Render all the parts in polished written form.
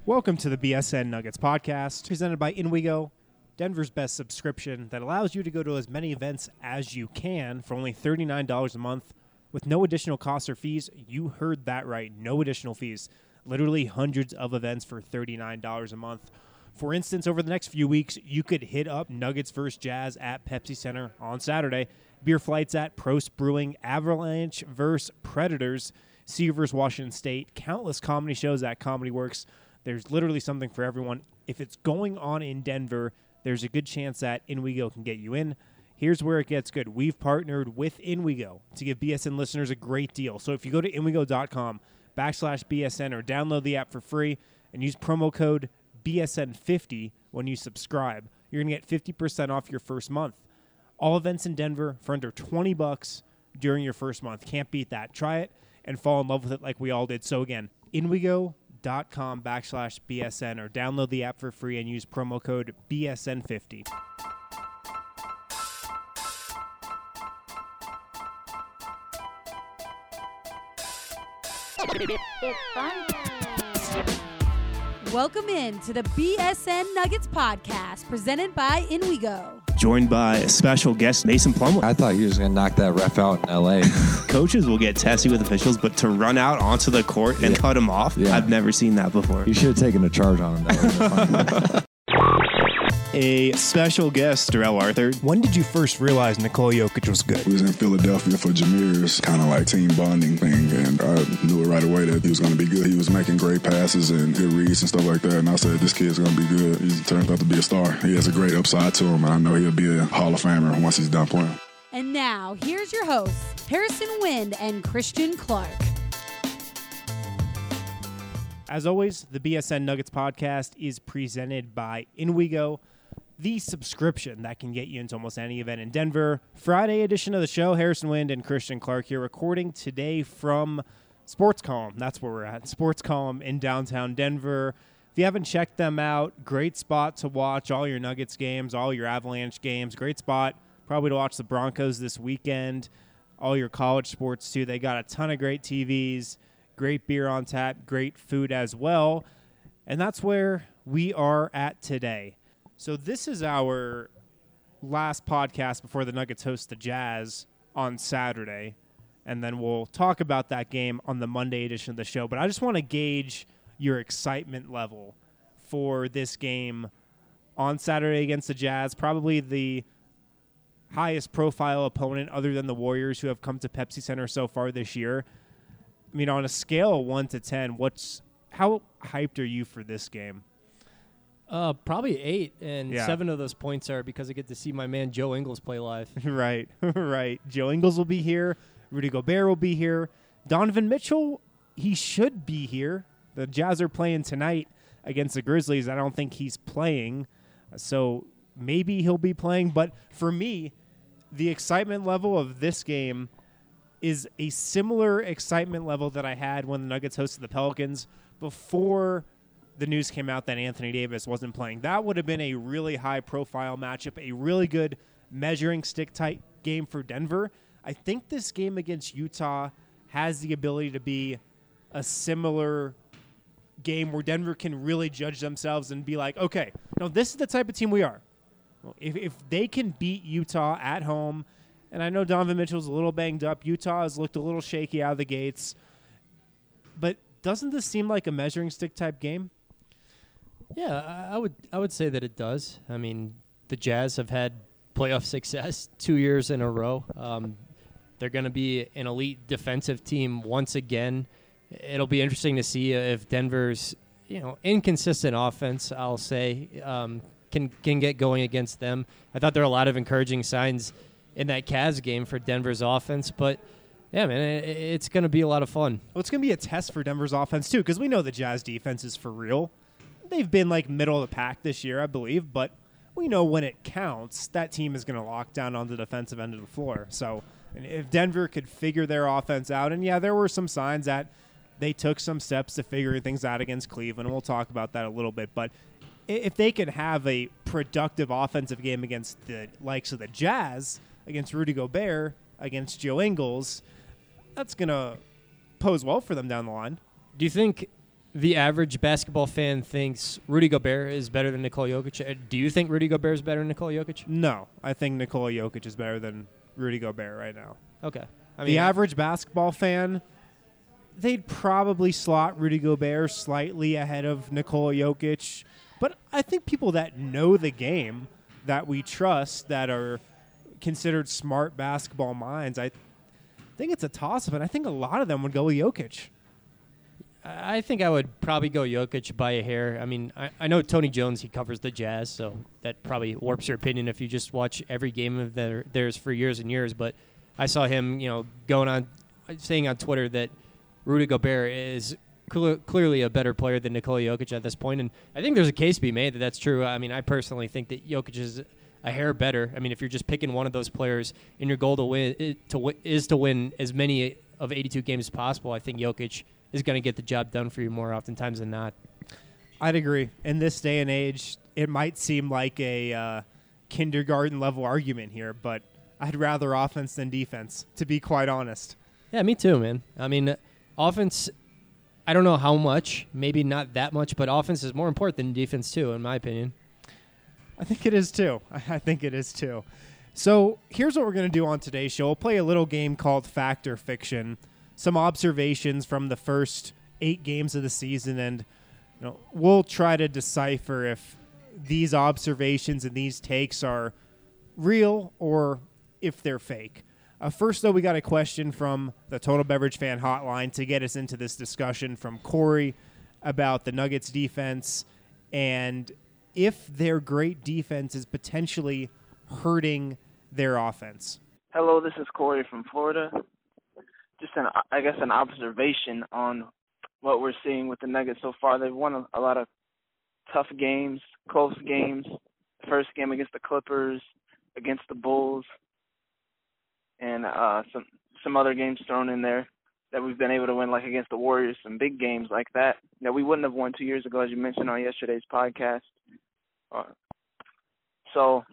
Welcome to the BSN Nuggets podcast, presented by InWeGo, Denver's best subscription that allows you to go to as many events as you can for only $39 a month with no additional costs or fees. You heard that right, no additional fees. Literally hundreds of events for $39 a month. For instance, over the next few weeks, you could hit up Nuggets vs. Jazz at Pepsi Center on Saturday, beer flights at Prost Brewing, Avalanche vs. Predators, CU vs. Washington State, countless comedy shows at Comedy Works. There's literally something for everyone. If it's going on in Denver, there's a good chance that InWeGo can get you in. Here's where it gets good. We've partnered with InWeGo to give BSN listeners a great deal. So if you go to inwego.com/BSN or download the app for free and use promo code BSN50 when you subscribe, you're going to get 50% off your first month. All events in Denver for under $20 during your first month. Can't beat that. Try it and fall in love with it like we all did. So again, inwego.com/BSN or download the app for free and use promo code BSN50. Welcome in to the BSN Nuggets podcast presented by InWeGo. Joined by a special guest, Mason Plumlee. I thought he was going to knock that ref out in L.A. Coaches will get testy with officials, but to run out onto the court and cut him off, I've never seen that before. You should have taken a charge on him. That A special guest, Darrell Arthur. When did you first realize Nikola Jokic was good? We was in Philadelphia for Jameer's kind of like team bonding thing, and I knew it right away that he was going to be good. He was making great passes and good reads and stuff like that, and I said, this kid's going to be good. He turns out to be a star. He has a great upside to him, and I know he'll be a Hall of Famer once he's done playing. And now, here's your hosts, Harrison Wind and Christian Clark. As always, the BSN Nuggets podcast is presented by InWeGo, the subscription that can get you into almost any event in Denver. Friday edition of the show, Harrison Wind and Christian Clark here, recording today from Sports Column. That's where we're at, Sports Column in downtown Denver. If you haven't checked them out, great spot to watch all your Nuggets games, all your Avalanche games. Great spot probably to watch the Broncos this weekend, all your college sports too. They got a ton of great TVs, great beer on tap, great food as well. And that's where we are at today. So this is our last podcast before the Nuggets host the Jazz on Saturday, and then we'll talk about that game on the Monday edition of the show. But I just want to gauge your excitement level for this game on Saturday against the Jazz, probably the highest profile opponent other than the Warriors who have come to Pepsi Center so far this year. I mean, on a scale of 1 to 10, how hyped are you for this game? Probably 8, and 7 of those points are because I get to see my man Joe Ingles play live. Right, right. Joe Ingles will be here. Rudy Gobert will be here. Donovan Mitchell, he should be here. The Jazz are playing tonight against the Grizzlies. I don't think he's playing, so maybe he'll be playing. But for me, the excitement level of this game is a similar excitement level that I had when the Nuggets hosted the Pelicans before the news came out that Anthony Davis wasn't playing. That would have been a really high-profile matchup, a really good measuring stick-type game for Denver. I think this game against Utah has the ability to be a similar game where Denver can really judge themselves and be like, okay, no, this is the type of team we are. Well, if they can beat Utah at home, and I know Donovan Mitchell's a little banged up. Utah has looked a little shaky out of the gates. But doesn't this seem like a measuring stick-type game? Yeah, I would say that it does. I mean, the Jazz have had playoff success 2 years in a row. They're going to be an elite defensive team once again. It'll be interesting to see if Denver's inconsistent offense, I'll say, can get going against them. I thought there were a lot of encouraging signs in that Cavs game for Denver's offense, but yeah, man, it's going to be a lot of fun. Well, it's going to be a test for Denver's offense too, because we know the Jazz defense is for real. They've been like middle of the pack this year, I believe, but we know when it counts, that team is going to lock down on the defensive end of the floor. So if Denver could figure their offense out, and yeah, there were some signs that they took some steps to figuring things out against Cleveland, and we'll talk about that a little bit, but if they could have a productive offensive game against the likes of the Jazz, against Rudy Gobert, against Joe Ingles, that's going to pose well for them down the line. Do you think the average basketball fan thinks Rudy Gobert is better than Nikola Jokic. Do you think Rudy Gobert is better than Nikola Jokic? No, I think Nikola Jokic is better than Rudy Gobert right now. Okay. The average basketball fan, they'd probably slot Rudy Gobert slightly ahead of Nikola Jokic. But I think people that know the game, that we trust, that are considered smart basketball minds, I think it's a toss-up, and I think a lot of them would go with Jokic. I think I would probably go Jokic by a hair. I mean, I know Tony Jones, he covers the Jazz, so that probably warps your opinion if you just watch every game of theirs for years and years. But I saw him, saying on Twitter that Rudy Gobert is clearly a better player than Nikola Jokic at this point. And I think there's a case to be made that that's true. I mean, I personally think that Jokic is a hair better. I mean, if you're just picking one of those players and your goal to win as many of 82 games as possible, I think Jokic is going to get the job done for you more oftentimes than not. I'd agree. In this day and age, it might seem like a kindergarten-level argument here, but I'd rather offense than defense, to be quite honest. Yeah, me too, man. I mean, offense, I don't know how much, maybe not that much, but offense is more important than defense too, in my opinion. I think it is too. I think it is too. So here's what we're going to do on today's show. We'll play a little game called Fact or Fiction, some observations from the first 8 games of the season, and we'll try to decipher if these observations and these takes are real or if they're fake. First, though, we got a question from the Total Beverage Fan Hotline to get us into this discussion from Corey about the Nuggets defense and if their great defense is potentially hurting their offense. Hello, this is Corey from Florida. Just an observation on what we're seeing with the Nuggets so far. They've won a lot of tough games, close games. The first game against the Clippers, against the Bulls, and some other games thrown in there that we've been able to win, like against the Warriors, some big games like that we wouldn't have won 2 years ago, as you mentioned on yesterday's podcast. So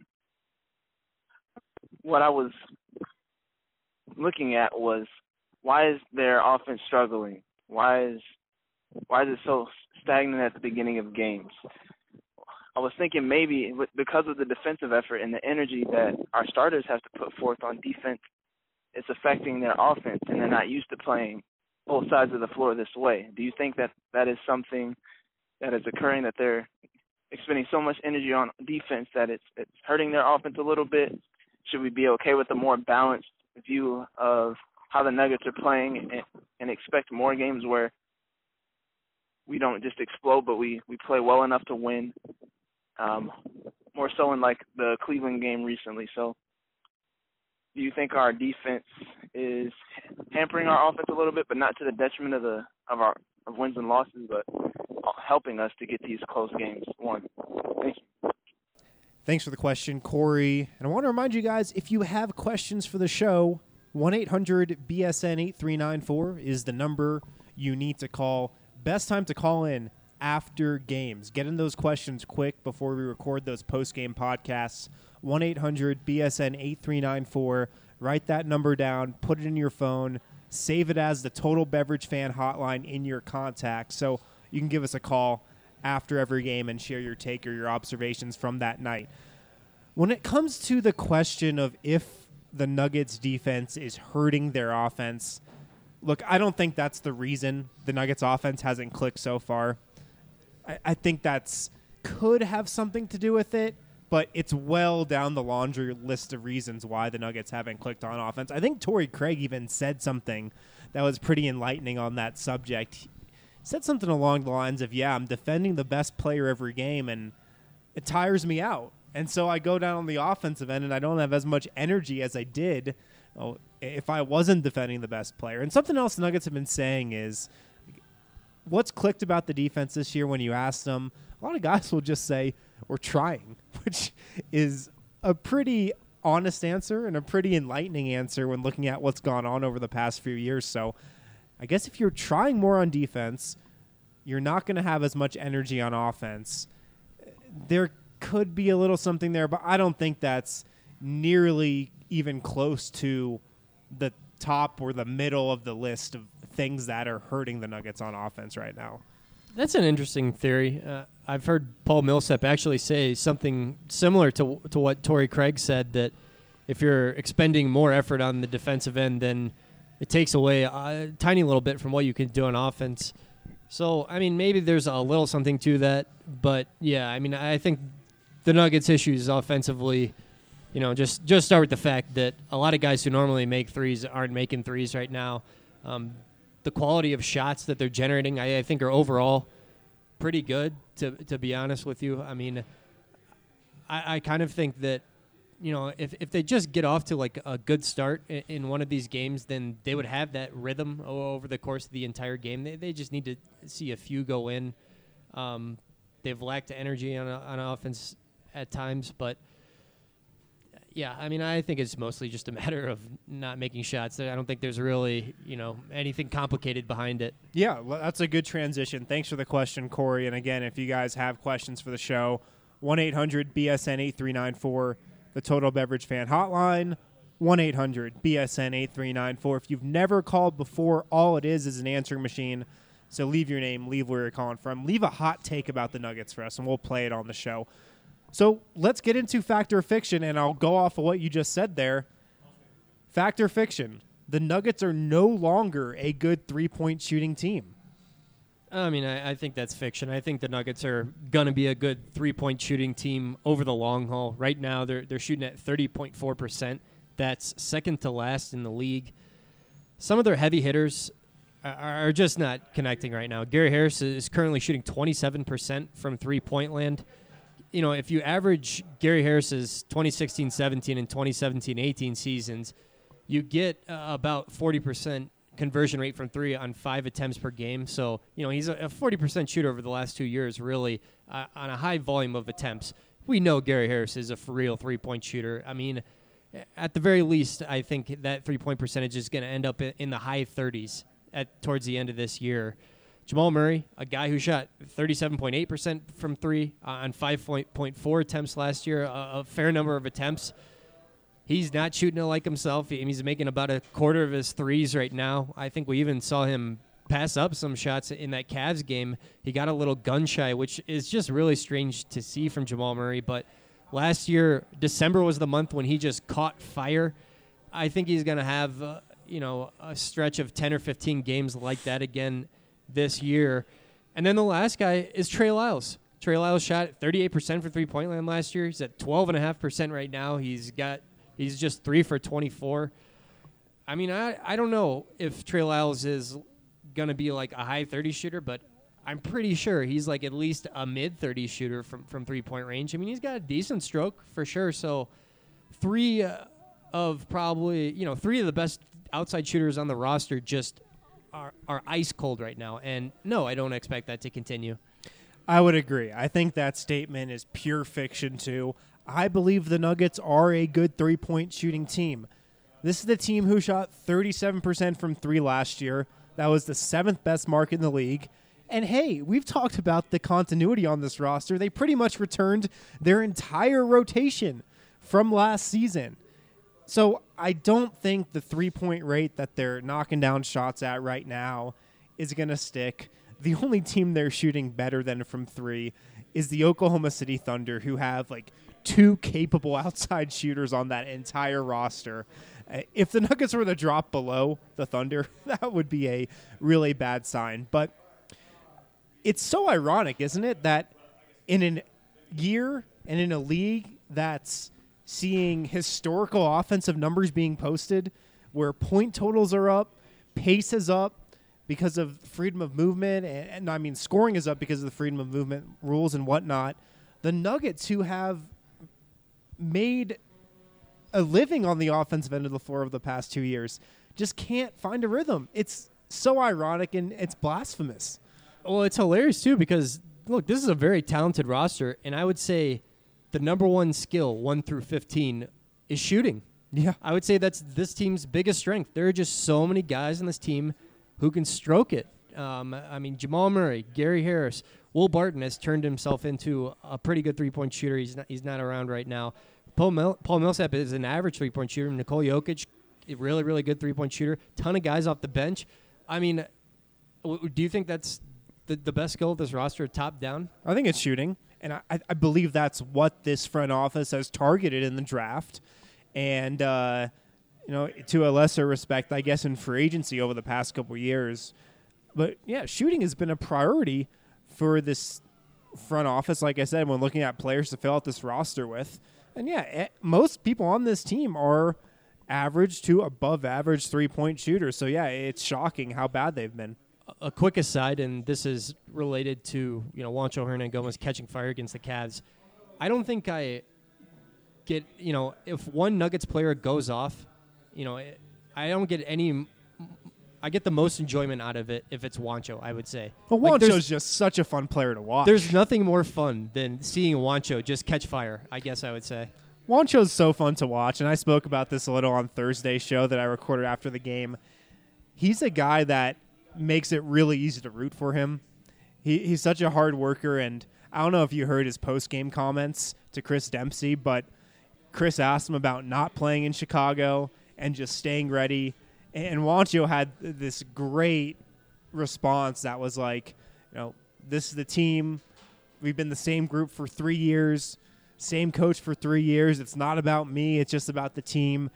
what I was looking at was, why is their offense struggling? Why is it so stagnant at the beginning of games? I was thinking maybe because of the defensive effort and the energy that our starters have to put forth on defense, it's affecting their offense, and they're not used to playing both sides of the floor this way. Do you think that is something that is occurring, that they're expending so much energy on defense that it's hurting their offense a little bit? Should we be okay with a more balanced view of how the Nuggets are playing and expect more games where we don't just explode, but we play well enough to win, more so in like the Cleveland game recently? So do you think our defense is hampering our offense a little bit, but not to the detriment of wins and losses, but helping us to get these close games won? Thank you. Thanks for the question, Corey. And I want to remind you guys, if you have questions for the show, 1-800-BSN-8394 is the number you need to call. Best time to call in after games. Get in those questions quick before we record those post-game podcasts. 1-800-BSN-8394. Write that number down. Put it in your phone. Save it as the Total Beverage Fan Hotline in your contacts, so you can give us a call after every game and share your take or your observations from that night. When it comes to the question of if the Nuggets defense is hurting their offense, look, I don't think that's the reason the Nuggets offense hasn't clicked so far. I think that's could have something to do with it, but it's well down the laundry list of reasons why the Nuggets haven't clicked on offense. I think Torrey Craig even said something that was pretty enlightening on that subject. He said something along the lines of, I'm defending the best player every game, and it tires me out. And so I go down on the offensive end, and I don't have as much energy as I did if I wasn't defending the best player. And something else the Nuggets have been saying is, what's clicked about the defense this year when you ask them, a lot of guys will just say, we're trying, which is a pretty honest answer and a pretty enlightening answer when looking at what's gone on over the past few years. So I guess if you're trying more on defense, you're not going to have as much energy on offense. There could be a little something there, but I don't think that's nearly even close to the top or the middle of the list of things that are hurting the Nuggets on offense right now. That's an interesting theory. I've heard Paul Millsap actually say something similar to what Torrey Craig said, that if you're expending more effort on the defensive end, then it takes away a tiny little bit from what you can do on offense. So, I mean, maybe there's a little something to that. But, yeah, I mean, I think the Nuggets' issues offensively, just start with the fact that a lot of guys who normally make threes aren't making threes right now. The quality of shots that they're generating, I think, are overall pretty good, to be honest with you. I mean, I kind of think that, if they just get off to like a good start in one of these games, then they would have that rhythm over the course of the entire game. They just need to see a few go in. They've lacked energy on offense at times, but yeah, I mean, I think it's mostly just a matter of not making shots. I don't think there's really, anything complicated behind it. Yeah, well, that's a good transition. Thanks for the question, Corey. And again, if you guys have questions for the show, 1-800-BSN-8394, the Total Beverage Fan Hotline, 1-800-BSN-8394. If you've never called before, all it is an answering machine. So leave your name, leave where you're calling from, leave a hot take about the Nuggets for us, and we'll play it on the show. So let's get into fact or fiction, and I'll go off of what you just said there. Fact or fiction, the Nuggets are no longer a good three-point shooting team. I mean, I think that's fiction. I think the Nuggets are going to be a good three-point shooting team over the long haul. Right now, they're shooting at 30.4%. That's second to last in the league. Some of their heavy hitters are just not connecting right now. Gary Harris is currently shooting 27% from three-point land. If you average Gary Harris's 2016-17 and 2017-18 seasons, you get about 40% conversion rate from three on 5 attempts per game. So, he's a 40% shooter over the last 2 years, really, on a high volume of attempts. We know Gary Harris is a for real three-point shooter. I mean, at the very least, I think that three-point percentage is going to end up in the high 30s towards the end of this year. Jamal Murray, a guy who shot 37.8% from three on 5.4 attempts last year, a fair number of attempts. He's not shooting it like himself. He's making about a quarter of his threes right now. I think we even saw him pass up some shots in that Cavs game. He got a little gun shy, which is just really strange to see from Jamal Murray. But last year, December was the month when he just caught fire. I think he's going to have, a stretch of 10 or 15 games like that again this year. And then the last guy is Trey Lyles. Trey Lyles shot 38% for three-point land last year. He's at 12.5% right now. He's just 3 for 24. I mean, I don't know if Trey Lyles is going to be like a high 30 shooter, but I'm pretty sure he's like at least a mid-30 shooter from three-point range. I mean, he's got a decent stroke for sure. So three of the best outside shooters on the roster just are ice cold right now. And no, I don't expect that to continue. I would agree. I think that statement is pure fiction too. I believe the Nuggets are a good three-point shooting team. This is the team who shot 37% from three last year. That was the 7th best mark in the league. And hey, we've talked about the continuity on this roster. They pretty much returned their entire rotation from last season. So I don't think the three-point rate that they're knocking down shots at right now is going to stick. The only team they're shooting better than from three is the Oklahoma City Thunder, who have like 2 capable outside shooters on that entire roster. If the Nuggets were to drop below the Thunder, that would be a really bad sign. But it's so ironic, isn't it, that in a year and in a league that's seeing historical offensive numbers being posted, where point totals are up, pace is up because of freedom of movement, and I mean scoring is up because of the freedom of movement rules and whatnot, the Nuggets, who have made a living on the offensive end of the floor over the past 2 years, just can't find a rhythm. It's so ironic and it's blasphemous. Well, it's hilarious too because, look, this is a very talented roster, and I would say the number one skill, 1 through 15, is shooting. Yeah. I would say that's this team's biggest strength. There are just so many guys on this team who can stroke it. I mean, Jamal Murray, Gary Harris, Will Barton has turned himself into a pretty good three-point shooter. He's not around right now. Paul Millsap is an average three-point shooter. Nikola Jokic, a really, really good three-point shooter. Ton of guys off the bench. I mean, do you think that's the best skill of this roster top down? I think it's shooting, and I believe that's what this front office has targeted in the draft, and to a lesser respect, I guess, in free agency over the past couple of years. But yeah, shooting has been a priority for this front office, like I said, when looking at players to fill out this roster with. And yeah, most people on this team are average to above average 3-point shooters. So yeah, it's shocking how bad they've been. A quick aside, and this is related to Juancho Hernangomez catching fire against the Cavs. I don't think I get if one Nuggets player goes off, I don't get any. I get the most enjoyment out of it if it's Juancho, I would say. Well, Juancho's just such a fun player to watch. There's nothing more fun than seeing Juancho just catch fire, I guess I would say. Juancho's so fun to watch, and I spoke about this a little on Thursday's show that I recorded after the game. He's a guy that makes it really easy to root for him. He's such a hard worker, and I don't know if you heard his post-game comments to Chris Dempsey, but Chris asked him about not playing in Chicago and just staying ready. And Juancho had this great response that was like, this is the team. We've been the same group for 3 years, same coach for 3 years. It's not about me. It's just about the team.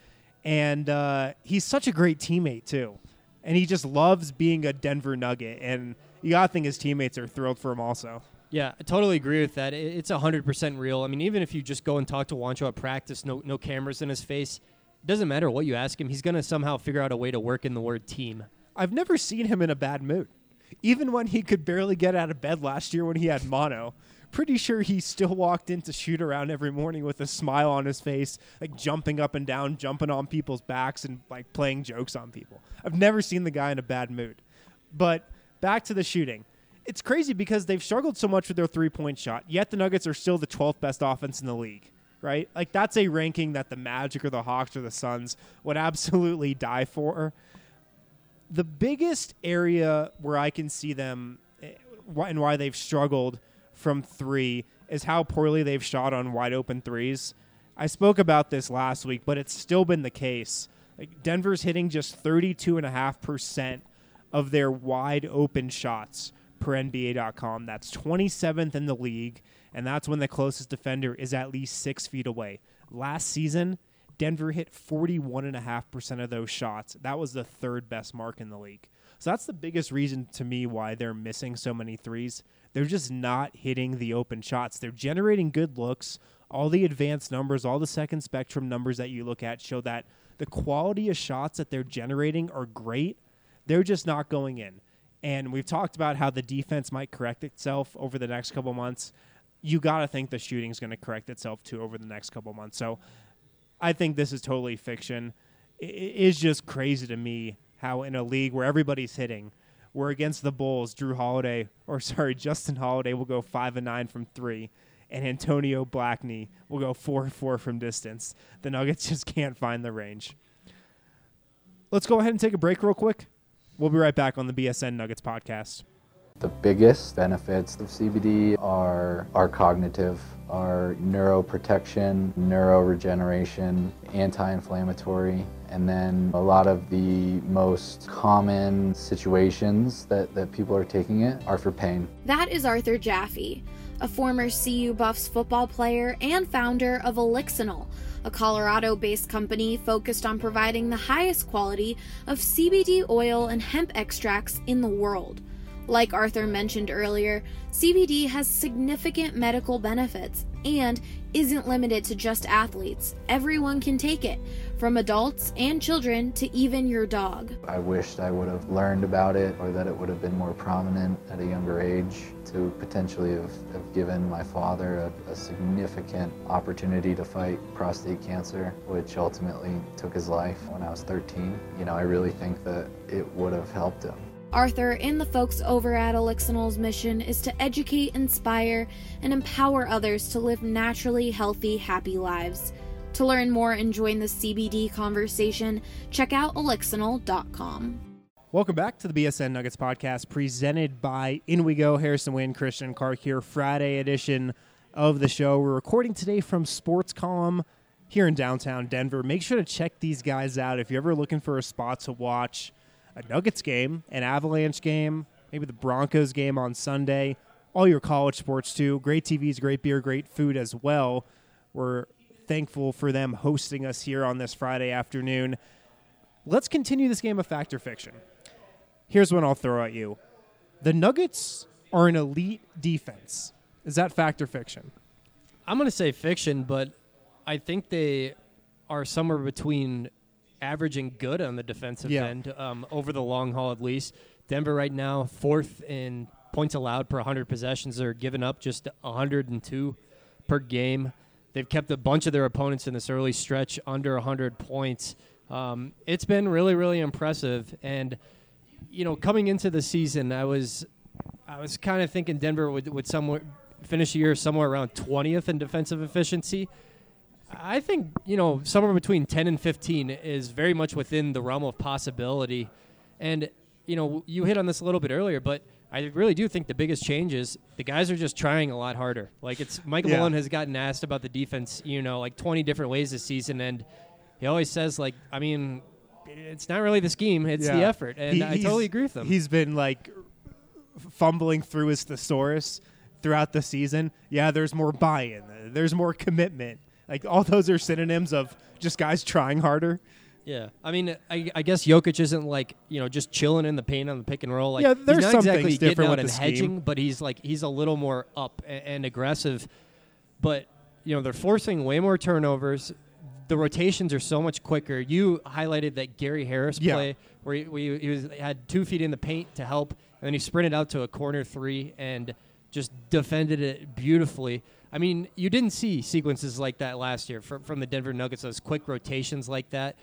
And he's such a great teammate, too. And he just loves being a Denver Nugget. And you got to think his teammates are thrilled for him also. Yeah, I totally agree with that. It's 100% real. I mean, even if you just go and talk to Juancho at practice, no cameras in his face, it doesn't matter what you ask him. He's going to somehow figure out a way to work in the word team. I've never seen him in a bad mood. Even when he could barely get out of bed last year when he had mono, pretty sure he still walked in to shoot around every morning with a smile on his face, like jumping up and down, jumping on people's backs and like playing jokes on people. I've never seen the guy in a bad mood. But back to the shooting. It's crazy because they've struggled so much with their three-point shot, yet the Nuggets are still the 12th best offense in the league. Right? Like, that's a ranking that the Magic or the Hawks or the Suns would absolutely die for. The biggest area where I can see them and why they've struggled from three is how poorly they've shot on wide-open threes. I spoke about this last week, but it's still been the case. Like, Denver's hitting just 32.5% of their wide-open shots per NBA.com. That's 27th in the league. And that's when the closest defender is at least 6 feet away. Last season, Denver hit 41.5% of those shots. That was the third best mark in the league. So that's the biggest reason to me why they're missing so many threes. They're just not hitting the open shots. They're generating good looks. All the advanced numbers, all the second spectrum numbers that you look at show that the quality of shots that they're generating are great. They're just not going in. And we've talked about how the defense might correct itself over the next couple months. You got to think the shooting is going to correct itself, too, over the next couple months. So I think this is totally fiction. It is just crazy to me how in a league where everybody's hitting, where against the Bulls, Justin Holiday will go 5-9 from three, and Antonio Blackney will go 4-4 from distance. The Nuggets just can't find the range. Let's go ahead and take a break real quick. We'll be right back on the BSN Nuggets podcast. The biggest benefits of CBD are cognitive, are neuroprotection, neuroregeneration, anti-inflammatory, and then a lot of the most common situations that people are taking it are for pain. That is Arthur Jaffe, a former CU Buffs football player and founder of Elixinol, a Colorado-based company focused on providing the highest quality of CBD oil and hemp extracts in the world. Like Arthur mentioned earlier, CBD has significant medical benefits and isn't limited to just athletes. Everyone can take it, from adults and children to even your dog. I wished I would have learned about it, or that it would have been more prominent at a younger age to potentially have given my father a significant opportunity to fight prostate cancer, which ultimately took his life when I was 13. I really think that it would have helped him. Arthur and the folks over at Elixinol's mission is to educate, inspire, and empower others to live naturally healthy, happy lives. To learn more and join the CBD conversation, check out Elixinol.com. Welcome back to the BSN Nuggets podcast presented by In We Go. Harrison Wind, Christian Clark here, Friday edition of the show. We're recording today from Sports Column here in downtown Denver. Make sure to check these guys out if you're ever looking for a spot to watch a Nuggets game, an Avalanche game, maybe the Broncos game on Sunday, all your college sports too. Great TVs, great beer, great food as well. We're thankful for them hosting us here on this Friday afternoon. Let's continue this game of fact or fiction. Here's one I'll throw at you. The Nuggets are an elite defense. Is that fact or fiction? I'm going to say fiction, but I think they are somewhere between average and good on the defensive end over the long haul at least. Denver right now, 4th in points allowed per 100 possessions. They're giving up just 102 per game. They've kept a bunch of their opponents in this early stretch under 100 points. It's been really, really impressive. And, coming into the season, I was kind of thinking Denver would somewhere finish the year somewhere around 20th in defensive efficiency. I think, somewhere between 10 and 15 is very much within the realm of possibility. And, you hit on this a little bit earlier, but I really do think the biggest change is the guys are just trying a lot harder. Like, Michael Malone has gotten asked about the defense, 20 different ways this season, and he always says, it's not really the scheme, it's the effort. And I totally agree with him. He's been, fumbling through his thesaurus throughout the season. Yeah, there's more buy-in. There's more commitment. All those are synonyms of just guys trying harder. Yeah. I mean, I guess Jokic isn't just chilling in the paint on the pick and roll. There's he's not some exactly things getting different out with and the hedging, scheme. but he's a little more up and aggressive. But, they're forcing way more turnovers. The rotations are so much quicker. You highlighted that Gary Harris play where he had 2 feet in the paint to help, and then he sprinted out to a corner 3 and just defended it beautifully. I mean, you didn't see sequences like that last year from the Denver Nuggets, those quick rotations like that.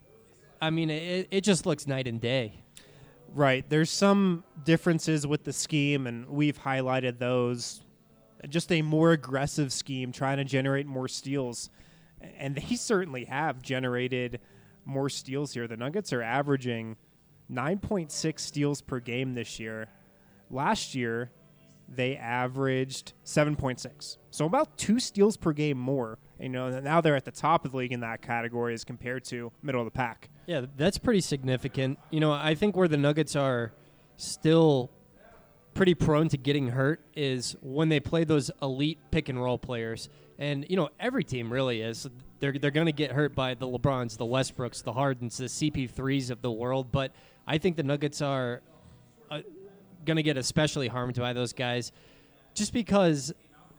I mean, it just looks night and day. Right. There's some differences with the scheme, and we've highlighted those. Just a more aggressive scheme, trying to generate more steals. And they certainly have generated more steals here. The Nuggets are averaging 9.6 steals per game this year. Last year, they averaged 7.6. So about 2 steals per game more. Now they're at the top of the league in that category as compared to middle of the pack. Yeah, that's pretty significant. I think where the Nuggets are still pretty prone to getting hurt is when they play those elite pick and roll players. And, every team really is. They're going to get hurt by the LeBrons, the Westbrooks, the Hardens, the CP3s of the world. But I think the Nuggets are going to get especially harmed by those guys just because,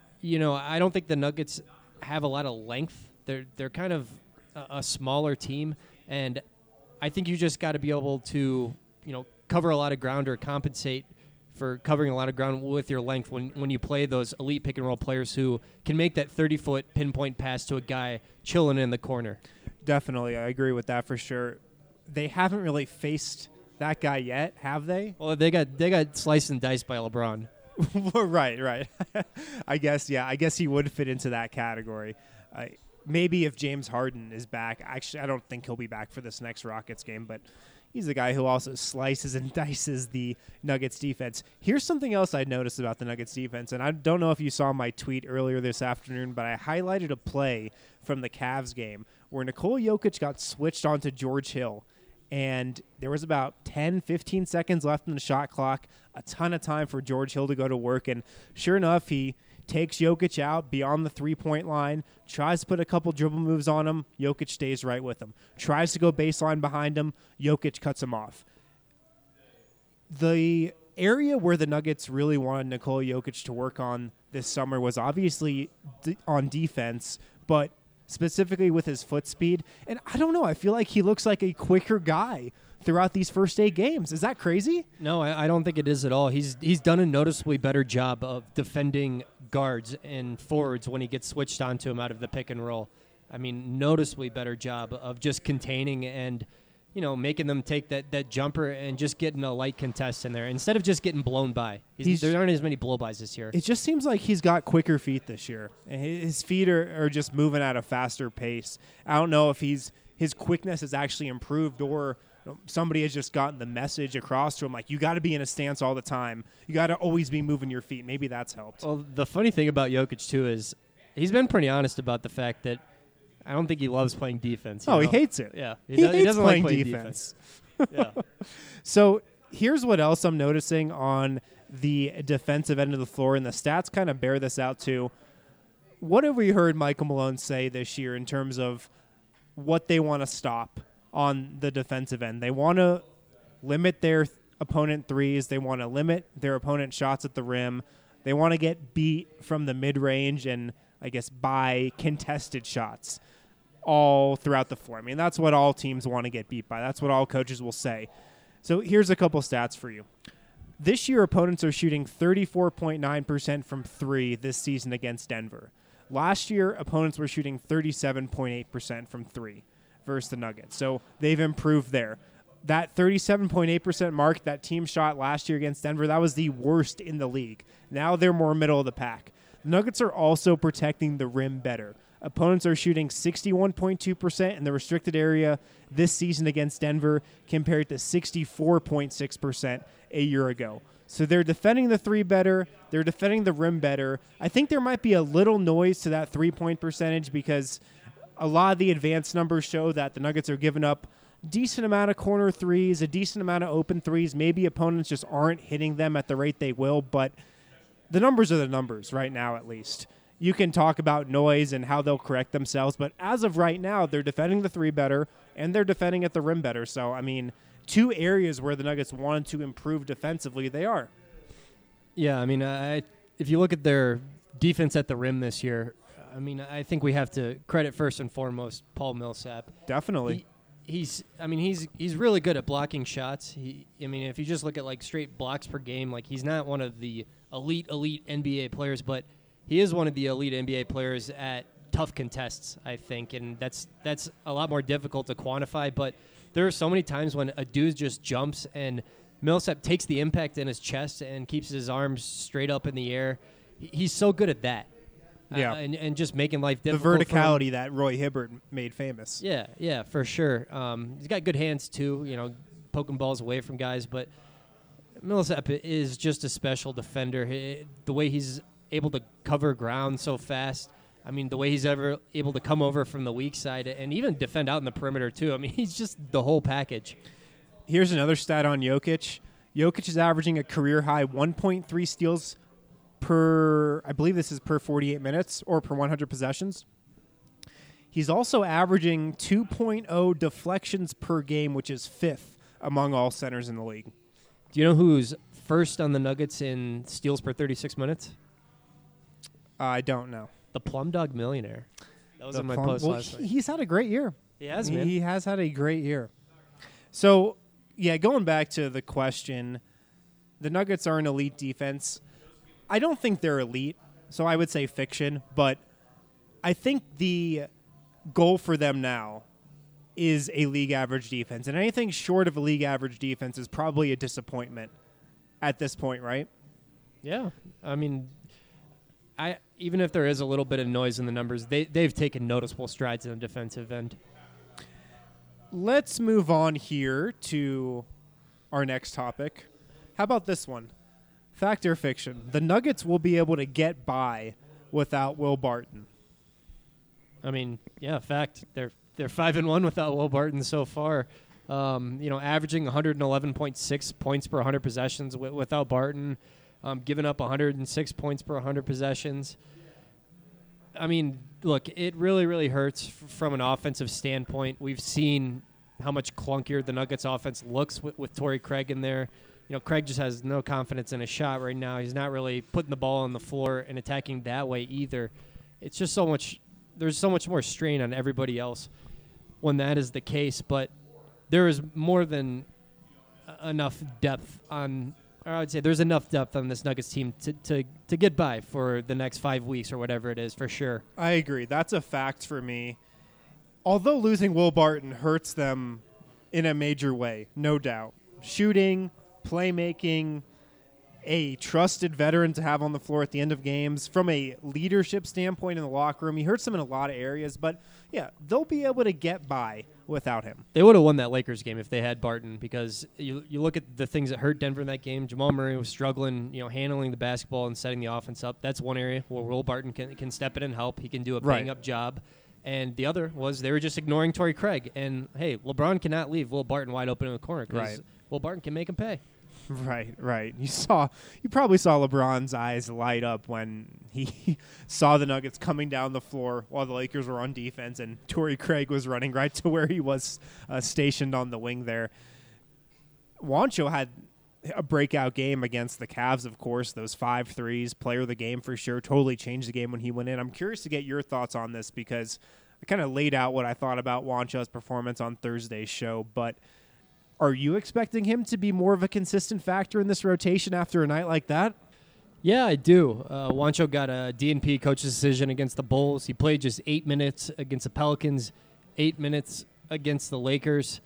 I don't think the Nuggets have a lot of length. They're kind of a smaller team. And I think you just got to be able to, cover a lot of ground or compensate for covering a lot of ground with your length when you play those elite pick-and-roll players who can make that 30-foot pinpoint pass to a guy chilling in the corner. Definitely. I agree with that for sure. They haven't really faced that guy yet, have they? Well, they got sliced and diced by LeBron. Right. I guess he would fit into that category. Maybe if James Harden is back. Actually, I don't think he'll be back for this next Rockets game, but he's a guy who also slices and dices the Nuggets defense. Here's something else I noticed about the Nuggets defense, and I don't know if you saw my tweet earlier this afternoon, but I highlighted a play from the Cavs game where Nikola Jokic got switched onto George Hill, and there was about 10, 15 seconds left in the shot clock, a ton of time for George Hill to go to work, and sure enough, he takes Jokic out beyond the three-point line, tries to put a couple dribble moves on him, Jokic stays right with him. Tries to go baseline behind him, Jokic cuts him off. The area where the Nuggets really wanted Nikola Jokic to work on this summer was obviously on defense, but specifically with his foot speed. And I don't know, I feel like he looks like a quicker guy throughout these first 8 games. Is that crazy? No, I don't think it is at all. He's done a noticeably better job of defending guards and forwards when he gets switched onto him out of the pick and roll. I mean, noticeably better job of just containing and, making them take that jumper and just getting a light contest in there instead of just getting blown by. There aren't as many blow-bys this year. It just seems like he's got quicker feet this year. His feet are just moving at a faster pace. I don't know if his quickness has actually improved or somebody has just gotten the message across to him, like, you got to be in a stance all the time. You got to always be moving your feet. Maybe that's helped. Well, the funny thing about Jokic, too, is he's been pretty honest about the fact that I don't think he loves playing defense. He hates it. Yeah. He hates doesn't playing like playing defense. Yeah. So Here's what else I'm noticing on the defensive end of the floor, and the stats kind of bear this out too. What have we heard Michael Malone say this year in terms of what they want to stop on the defensive end? They want to limit their opponent threes. They want to limit their opponent shots at the rim. They want to get beat from the mid-range and, I guess, by contested shots all throughout the floor. I mean, that's what all teams want to get beat by. That's what all coaches will say. So here's a couple stats for you. This year, opponents are shooting 34.9% from three this season against Denver. Last year, opponents were shooting 37.8% from three versus the Nuggets. So they've improved there. That 37.8% mark that team shot last year against Denver, that was the worst in the league. Now they're more middle of the pack. The Nuggets are also protecting the rim better. Opponents are shooting 61.2% in the restricted area this season against Denver compared to 64.6% a year ago. So they're defending the three better. They're defending the rim better. I think there might be a little noise to that three-point percentage because a lot of the advanced numbers show that the Nuggets are giving up decent amount of corner threes, a decent amount of open threes. Maybe opponents just aren't hitting them at the rate they will, but the numbers are the numbers right now at least. You can talk about noise and how they'll correct themselves, but as of right now, they're defending the three better and they're defending at the rim better. So, I mean, two areas where the Nuggets wanted to improve defensively, they are. Yeah, I mean, if you look at their defense at the rim this year, I mean, I think we have to credit first and foremost Paul Millsap. Definitely. He's really good at blocking shots. If you just look at like straight blocks per game, like he's not one of the elite NBA players, but he is one of the elite NBA players at tough contests, I think, and that's a lot more difficult to quantify. But there are so many times when a dude just jumps and Millsap takes the impact in his chest and keeps his arms straight up in the air. He's so good at that. Yeah. And just making life difficult. The verticality that Roy Hibbert made famous. Yeah, for sure. He's got good hands, too, poking balls away from guys. But Millsap is just a special defender. The way he's able to cover ground so fast, the way he's ever able to come over from the weak side and even defend out in the perimeter, too. He's just the whole package. Here's another stat on Jokic. Jokic is averaging a career-high 1.3 steals per 48 minutes or per 100 possessions. He's also averaging 2.0 deflections per game, which is fifth among all centers in the league. Do you know who's first on the Nuggets in steals per 36 minutes? I don't know. The Plum Dog Millionaire. That was in my post last night. He's had a great year. He has, man. He has had a great year. So, yeah, going back to the question, the Nuggets are an elite defense. I don't think they're elite, so I would say fiction, but I think the goal for them now is a league average defense, and anything short of a league average defense is probably a disappointment at this point, right? Yeah. Even if there is a little bit of noise in the numbers, they've taken noticeable strides in the defensive end. Let's move on here to our next topic. How about this one? Fact or fiction? The Nuggets will be able to get by without Will Barton. Fact. They're 5-1 without Will Barton so far. Averaging 111.6 points per 100 possessions without Barton. Giving up 106 points per 100 possessions. Look, it really, really hurts from an offensive standpoint. We've seen how much clunkier the Nuggets offense looks with Torrey Craig in there. Craig just has no confidence in his shot right now. He's not really putting the ball on the floor and attacking that way either. It's just so much – there's so much more strain on everybody else when that is the case. But there is more than enough depth on – or I would say there's enough depth on this Nuggets team to get by for the next 5 weeks or whatever it is, for sure. I agree. That's a fact for me. Although losing Will Barton hurts them in a major way, no doubt. Shooting, playmaking, a trusted veteran to have on the floor at the end of games. From a leadership standpoint in the locker room, he hurts them in a lot of areas. But, yeah, they'll be able to get by without him. They would have won that Lakers game if they had Barton, because you look at the things that hurt Denver in that game. Jamal Murray was struggling, handling the basketball and setting the offense up. That's one area where Will Barton can step in and help. He can do a bang-up job. And the other was they were just ignoring Torrey Craig. And, hey, LeBron cannot leave Will Barton wide open in the corner because Will Barton can make him pay. Right. You probably saw LeBron's eyes light up when he saw the Nuggets coming down the floor while the Lakers were on defense, and Torrey Craig was running right to where he was stationed on the wing there. Juancho had a breakout game against the Cavs, of course. Those 5 threes, player of the game for sure, totally changed the game when he went in. I'm curious to get your thoughts on this because I kind of laid out what I thought about Juancho's performance on Thursday's show, but are you expecting him to be more of a consistent factor in this rotation after a night like that? Yeah, I do. Juancho got a DNP coach's decision against the Bulls. He played just 8 minutes against the Pelicans, 8 minutes against the Lakers.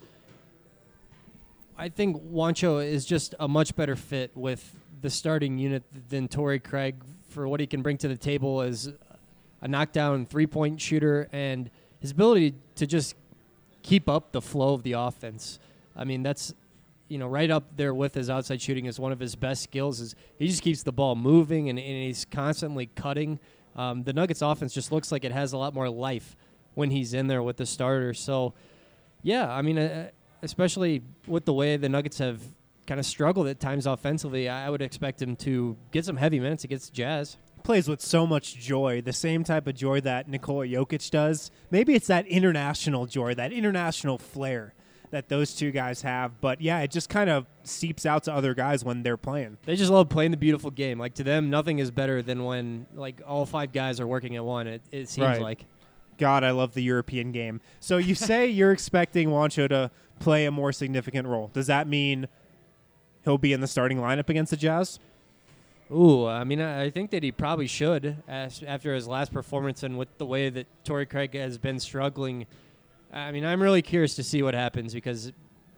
I think Juancho is just a much better fit with the starting unit than Torrey Craig for what he can bring to the table as a knockdown three-point shooter and his ability to just keep up the flow of the offense. I mean, that's, right up there with his outside shooting is one of his best skills. Is he just keeps the ball moving and he's constantly cutting. The Nuggets offense just looks like it has a lot more life when he's in there with the starters. So, yeah, I mean, especially with the way the Nuggets have kind of struggled at times offensively, I would expect him to get some heavy minutes against the Jazz. Plays with so much joy, the same type of joy that Nikola Jokic does. Maybe it's that international joy, that international flair that those two guys have. But, yeah, it just kind of seeps out to other guys when they're playing. They just love playing the beautiful game. Like, to them, nothing is better than when, all 5 guys are working at one, it seems right. like. God, I love the European game. So you say you're expecting Juancho to play a more significant role. Does that mean he'll be in the starting lineup against the Jazz? Ooh, I mean, I think that he probably should after his last performance and with the way that Torrey Craig has been struggling. I mean, I'm really curious to see what happens because,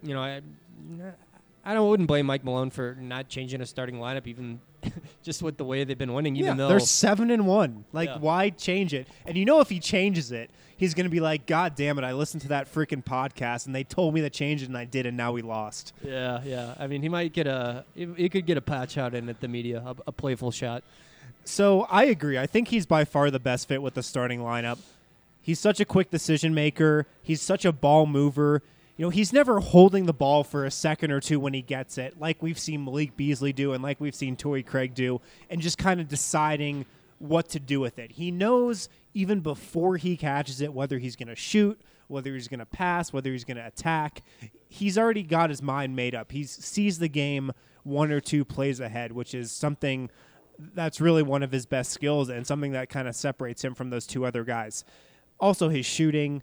I wouldn't blame Mike Malone for not changing a starting lineup, even just with the way they've been winning. Even though they're 7-1, why change it? And if he changes it, he's going to be like, "God damn it! I listened to that freaking podcast, and they told me to change it, and I did, and now we lost." Yeah. I mean, he might get he could get a patch out in at the media, a playful shot. So I agree. I think he's by far the best fit with the starting lineup. He's such a quick decision maker. He's such a ball mover. He's never holding the ball for a second or two when he gets it, like we've seen Malik Beasley do and like we've seen Torrey Craig do, and just kind of deciding what to do with it. He knows even before he catches it whether he's going to shoot, whether he's going to pass, whether he's going to attack. He's already got his mind made up. He sees the game 1 or 2 plays ahead, which is something that's really one of his best skills and something that kind of separates him from those 2 other guys. Also, his shooting,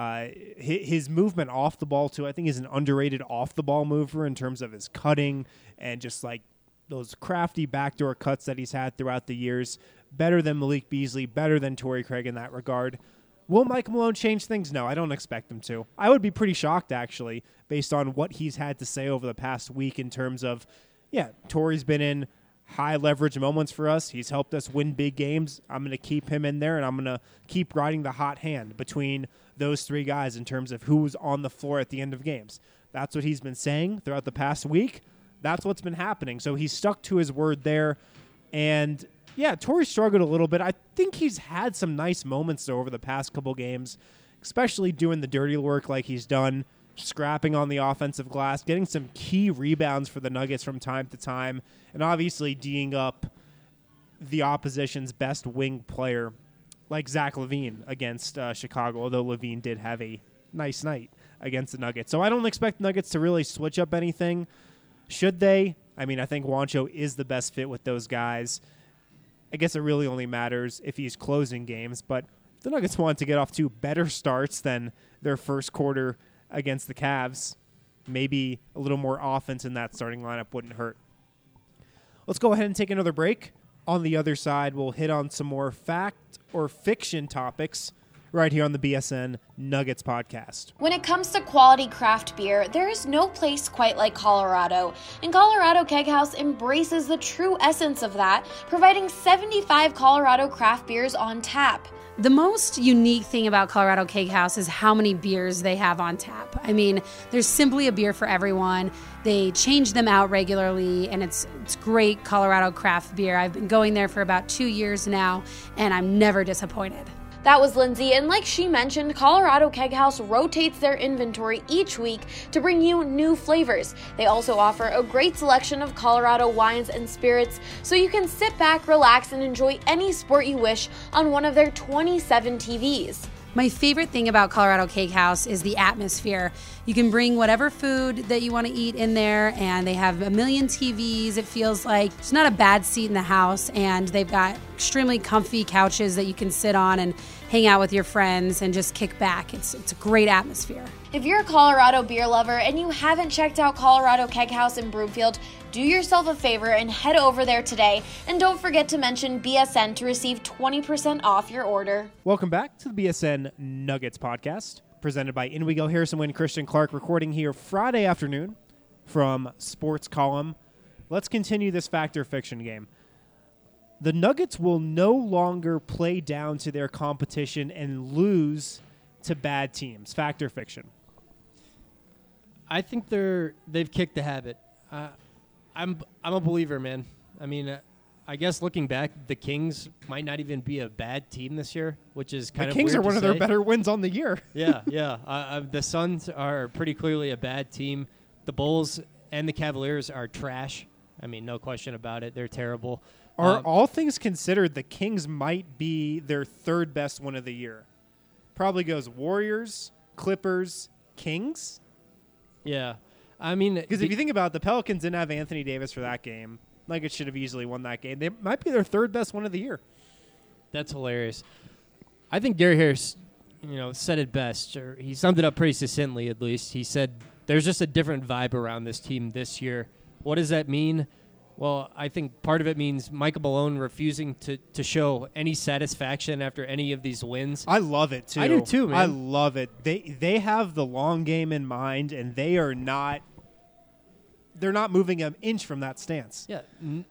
his movement off the ball, too. I think he's an underrated off-the-ball mover in terms of his cutting and just like those crafty backdoor cuts that he's had throughout the years. Better than Malik Beasley, better than Torrey Craig in that regard. Will Mike Malone change things? No, I don't expect him to. I would be pretty shocked, actually, based on what he's had to say over the past week in terms of, Torrey's been in high leverage moments for us. He's helped us win big games. I'm going to keep him in there, and I'm going to keep riding the hot hand between those 3 guys in terms of who's on the floor at the end of games. That's what he's been saying throughout the past week. That's what's been happening. So he's stuck to his word there. And, Torrey struggled a little bit. I think he's had some nice moments, though, over the past couple games, especially doing the dirty work like he's done, scrapping on the offensive glass, getting some key rebounds for the Nuggets from time to time, and obviously D'ing up the opposition's best wing player like Zach LaVine against Chicago, although LaVine did have a nice night against the Nuggets. So I don't expect the Nuggets to really switch up anything. Should they? I mean, I think Juancho is the best fit with those guys. I guess it really only matters if he's closing games, but if the Nuggets want to get off to better starts than their first quarter against the Cavs, maybe a little more offense in that starting lineup wouldn't hurt. Let's go ahead and take another break. On the other side, we'll hit on some more fact or fiction topics right here on the BSN Nuggets podcast. When it comes to quality craft beer, there is no place quite like Colorado, and Colorado Keg House embraces the true essence of that, providing 75 Colorado craft beers on tap. The most unique thing about Colorado Keg House is how many beers they have on tap. I mean, there's simply a beer for everyone. They change them out regularly, and it's great Colorado craft beer. I've been going there for about 2 years now, and I'm never disappointed. That was Lindsay, and like she mentioned, Colorado Keg House rotates their inventory each week to bring you new flavors. They also offer a great selection of Colorado wines and spirits, so you can sit back, relax, and enjoy any sport you wish on one of their 27 TVs. My favorite thing about Colorado Cake House is the atmosphere. You can bring whatever food that you want to eat in there, and they have a million TVs. It feels like it's not a bad seat in the house, and they've got extremely comfy couches that you can sit on and hang out with your friends and just kick back. It's a great atmosphere. If you're a Colorado beer lover and you haven't checked out Colorado Keg House in Broomfield, do yourself a favor and head over there today. And don't forget to mention BSN to receive 20% off your order. Welcome back to the BSN Nuggets podcast, presented by In We Go. Harrison Wind, Christian Clark, recording here Friday afternoon from Sports Column. Let's continue this fact or fiction game. The Nuggets will no longer play down to their competition and lose to bad teams. Fact or fiction? I think they've kicked the habit. I'm a believer, man. I mean, I guess looking back, the Kings might not even be a bad team this year, which is kind of weird. The Kings are one of their say. better wins on the year. Yeah. The Suns are pretty clearly a bad team. The Bulls and the Cavaliers are trash. I mean, no question about it. They're terrible. Are all things considered, the Kings might be their third best one of the year. Probably goes Warriors, Clippers, Kings. Yeah. I mean, because if you think about it, the Pelicans didn't have Anthony Davis for that game. Nuggets should have easily won that game. They might be their third best one of the year. That's hilarious. I think Gary Harris, said it best, or he summed it up pretty succinctly at least. He said there's just a different vibe around this team this year. What does that mean? Well, I think part of it means Michael Malone refusing to show any satisfaction after any of these wins. I love it, too. I do, too, man. I love it. They have the long game in mind, and they're not moving an inch from that stance. Yeah,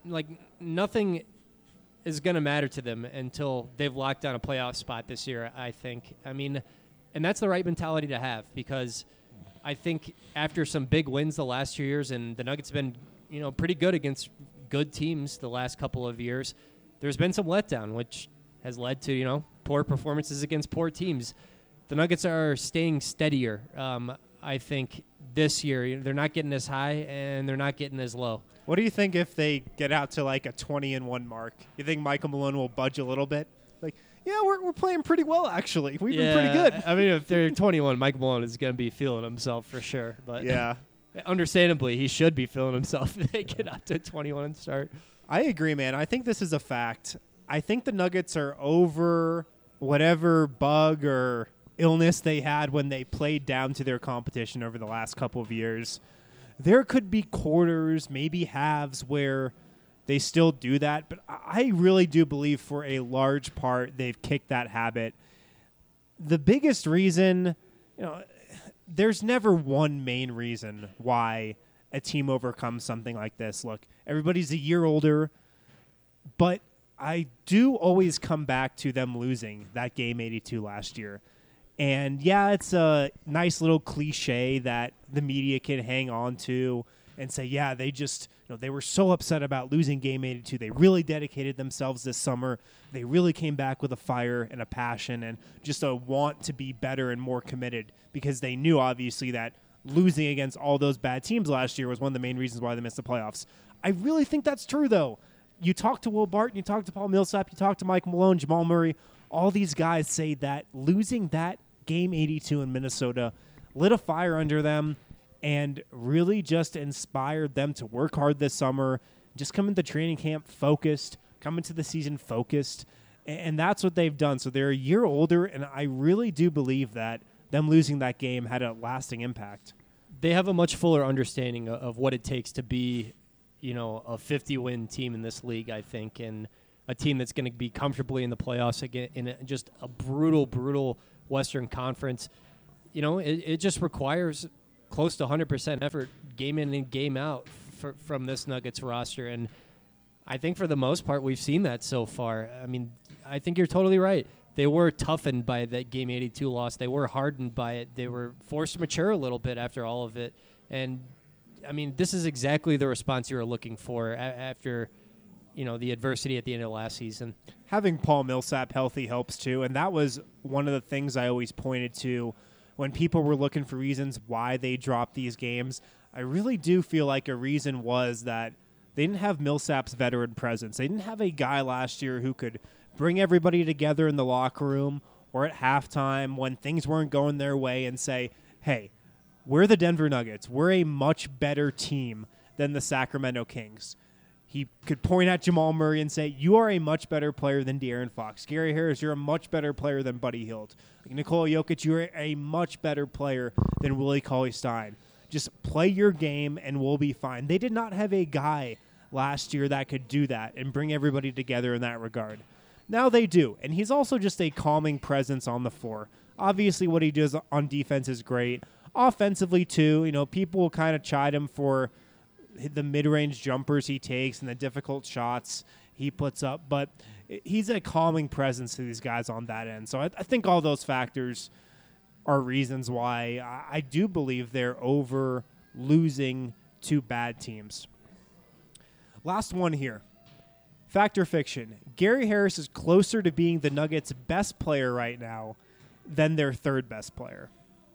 nothing is going to matter to them until they've locked down a playoff spot this year, I think. I mean, and that's the right mentality to have, because I think after some big wins the last 2 years, and the Nuggets have been pretty good against good teams the last couple of years, there's been some letdown, which has led to, poor performances against poor teams. The Nuggets are staying steadier. I think this year they're not getting as high and they're not getting as low. What do you think if they get out to like a 20-1 mark? You think Michael Malone will budge a little bit? Like, yeah, we're playing pretty well, actually. We've been pretty good. I mean, if they're 21, Michael Malone is going to be feeling himself for sure. But yeah. Understandably, he should be feeling himself if they get out to 21 and start. I agree, man. I think this is a fact. I think the Nuggets are over whatever bug or illness they had when they played down to their competition over the last couple of years. There could be quarters, maybe halves, where they still do that, but I really do believe for a large part they've kicked that habit. The biggest reason, there's never one main reason why a team overcomes something like this. Look, everybody's a year older, but I do always come back to them losing that game 82 last year. And yeah, it's a nice little cliche that the media can hang on to and say, yeah, they just, they were so upset about losing game 82. They really dedicated themselves this summer. They really came back with a fire and a passion and just a want to be better and more committed, because they knew, obviously, that losing against all those bad teams last year was one of the main reasons why they missed the playoffs. I really think that's true, though. You talk to Will Barton, you talk to Paul Millsap, you talk to Mike Malone, Jamal Murray. All these guys say that losing that game 82 in Minnesota lit a fire under them and really just inspired them to work hard this summer, just come into training camp focused, come into the season focused, and that's what they've done. So they're a year older, and I really do believe that them losing that game had a lasting impact. They have a much fuller understanding of what it takes to be, a 50-win team in this league, I think, and a team that's going to be comfortably in the playoffs again in just a brutal Western Conference. It just requires close to 100% effort game in and game out from this Nuggets roster. And I think for the most part, we've seen that so far. I mean, I think you're totally right. They were toughened by that game 82 loss. They were hardened by it. They were forced to mature a little bit after all of it. And, I mean, this is exactly the response you were looking for after the adversity at the end of last season. Having Paul Millsap healthy helps too, and that was one of the things I always pointed to when people were looking for reasons why they dropped these games. I really do feel like a reason was that they didn't have Millsap's veteran presence. They didn't have a guy last year who could bring everybody together in the locker room or at halftime when things weren't going their way and say, hey, we're the Denver Nuggets. We're a much better team than the Sacramento Kings. He could point at Jamal Murray and say, you are a much better player than De'Aaron Fox. Gary Harris, you're a much better player than Buddy Hield. Nikola Jokic, you're a much better player than Willie Cauley-Stein. Just play your game and we'll be fine. They did not have a guy last year that could do that and bring everybody together in that regard. Now they do, and he's also just a calming presence on the floor. Obviously, what he does on defense is great. Offensively, too, people will kind of chide him for the mid-range jumpers he takes and the difficult shots he puts up, but he's a calming presence to these guys on that end. So I think all those factors are reasons why I do believe they're over losing to bad teams. Last one here. Fact or fiction? Gary Harris is closer to being the Nuggets' best player right now than their third best player.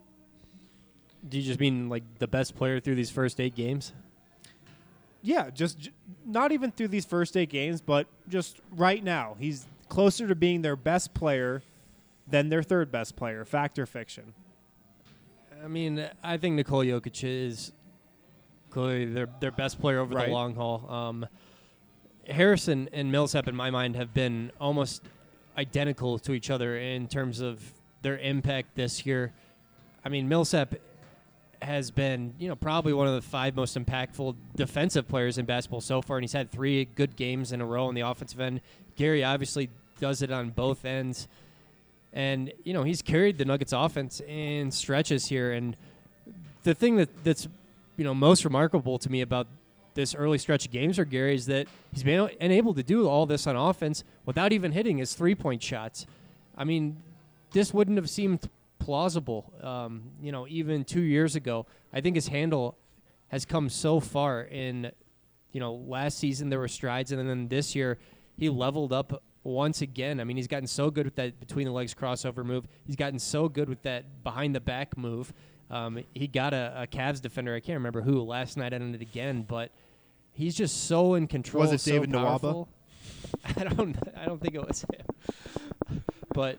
Do you just mean like the best player through these first 8 games? Yeah, just not even through these first 8 games, but just right now. He's closer to being their best player than their third best player. Fact or fiction? I mean, I think Nikola Jokic is clearly their best player over the long haul. Harrison and Millsap, in my mind, have been almost identical to each other in terms of their impact this year. I mean, Millsap has been, probably one of the 5 most impactful defensive players in basketball so far, and he's had 3 good games in a row on the offensive end. Gary obviously does it on both ends. And, he's carried the Nuggets offense in stretches here. And the thing that's, most remarkable to me about this early stretch of games for Gary is that he's been able to do all this on offense without even hitting his 3-point shots. I mean, this wouldn't have seemed plausible, even 2 years ago. I think his handle has come so far in, last season there were strides, and then this year he leveled up once again. I mean, he's gotten so good with that between the legs crossover move. He's gotten so good with that behind the back move. He got a Cavs defender, I can't remember who, last night on it again, but he's just so in control. Was it David Nwaba? I don't think it was him. But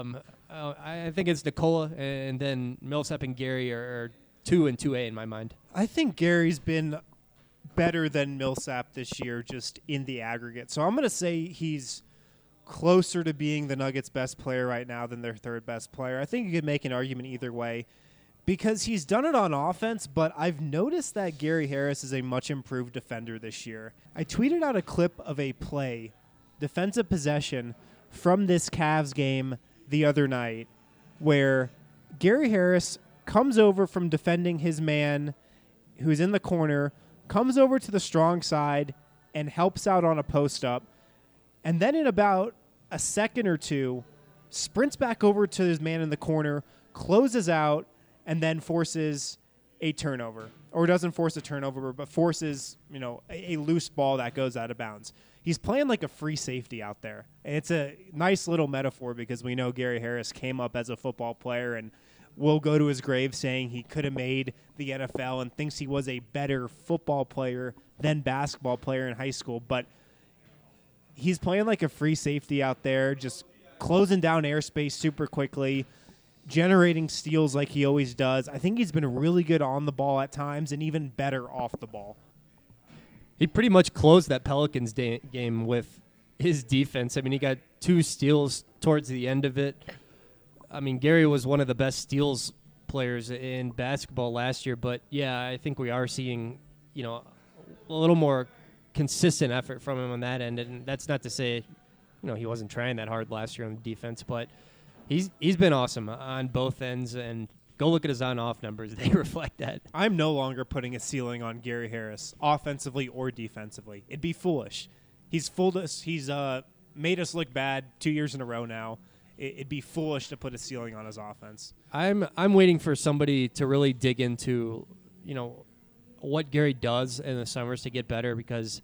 I think it's Nikola, and then Millsap and Gary are 2 and 2A in my mind. I think Gary's been better than Millsap this year just in the aggregate. So I'm going to say he's closer to being the Nuggets' best player right now than their third best player. I think you could make an argument either way because he's done it on offense, but I've noticed that Gary Harris is a much improved defender this year. I tweeted out a clip of a play, defensive possession, from this Cavs game the other night where Gary Harris comes over from defending his man who's in the corner, comes over to the strong side and helps out on a post-up, and then in about a second or two, sprints back over to his man in the corner, closes out, and then forces a turnover. Or doesn't force a turnover, but forces, a loose ball that goes out of bounds. He's playing like a free safety out there. And it's a nice little metaphor because we know Gary Harris came up as a football player and will go to his grave saying he could have made the NFL and thinks he was a better football player than basketball player in high school. But he's playing like a free safety out there, just closing down airspace super quickly, generating steals like he always does. I think he's been really good on the ball at times and even better off the ball. He pretty much closed that Pelicans game with his defense. I mean, he got 2 steals towards the end of it. I mean, Gary was one of the best steals players in basketball last year, but yeah, I think we are seeing, a little more consistent effort from him on that end, and that's not to say, he wasn't trying that hard last year on defense, but he's been awesome on both ends, and go look at his on-off numbers. They reflect that. I'm no longer putting a ceiling on Gary Harris, offensively or defensively. It'd be foolish. He's fooled us. He's made us look bad 2 years in a row now. It'd be foolish to put a ceiling on his offense. I'm waiting for somebody to really dig into, what Gary does in the summers to get better because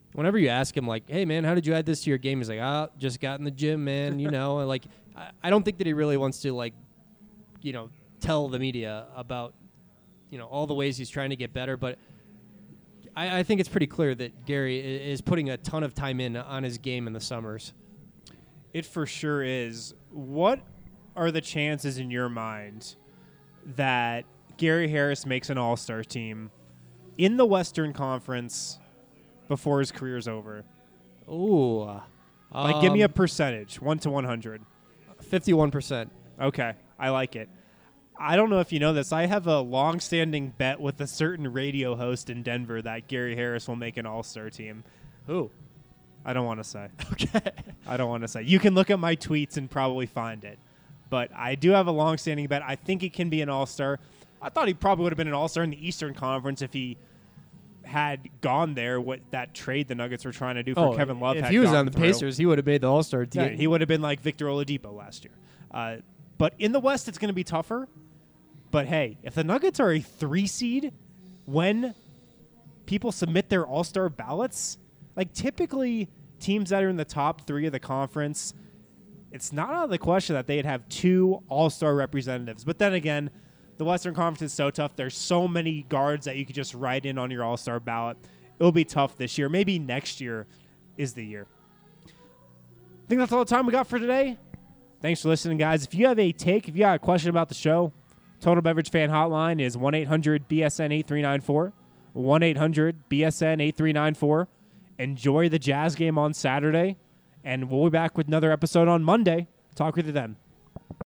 whenever you ask him, like, hey, man, how did you add this to your game? He's like, just got in the gym, man, and, like, I don't think that he really wants to, like, tell the media about, all the ways he's trying to get better. But I think it's pretty clear that Gary is putting a ton of time in on his game in the summers. It for sure is. What are the chances in your mind that Gary Harris makes an all-star team in the Western Conference before his career's over? Ooh. Give me a percentage, 1 to 100. 51%. Okay, I like it. I don't know if you know this. I have a long-standing bet with a certain radio host in Denver that Gary Harris will make an all-star team. Who? I don't want to say. Okay. I don't want to say. You can look at my tweets and probably find it. But I do have a long-standing bet. I think he can be an all-star. I thought he probably would have been an all-star in the Eastern Conference if he had gone there, what that trade the Nuggets were trying to do for Kevin Love. If had he was gone on the through. Pacers, he would have made the all-star team. Yeah, he would have been like Victor Oladipo last year. But in the West, it's going to be tougher. But, hey, if the Nuggets are a 3 seed when people submit their all-star ballots, like typically teams that are in the top 3 of the conference, it's not out of the question that they'd have 2 all-star representatives. But then again, the Western Conference is so tough. There's so many guards that you could just write in on your all-star ballot. It'll be tough this year. Maybe next year is the year. I think that's all the time we got for today. Thanks for listening, guys. If you have a take, if you got a question about the show, Total Beverage Fan Hotline is 1-800-BSN-8394. 1-800-BSN-8394. Enjoy the Jazz game on Saturday, and we'll be back with another episode on Monday. Talk with you then.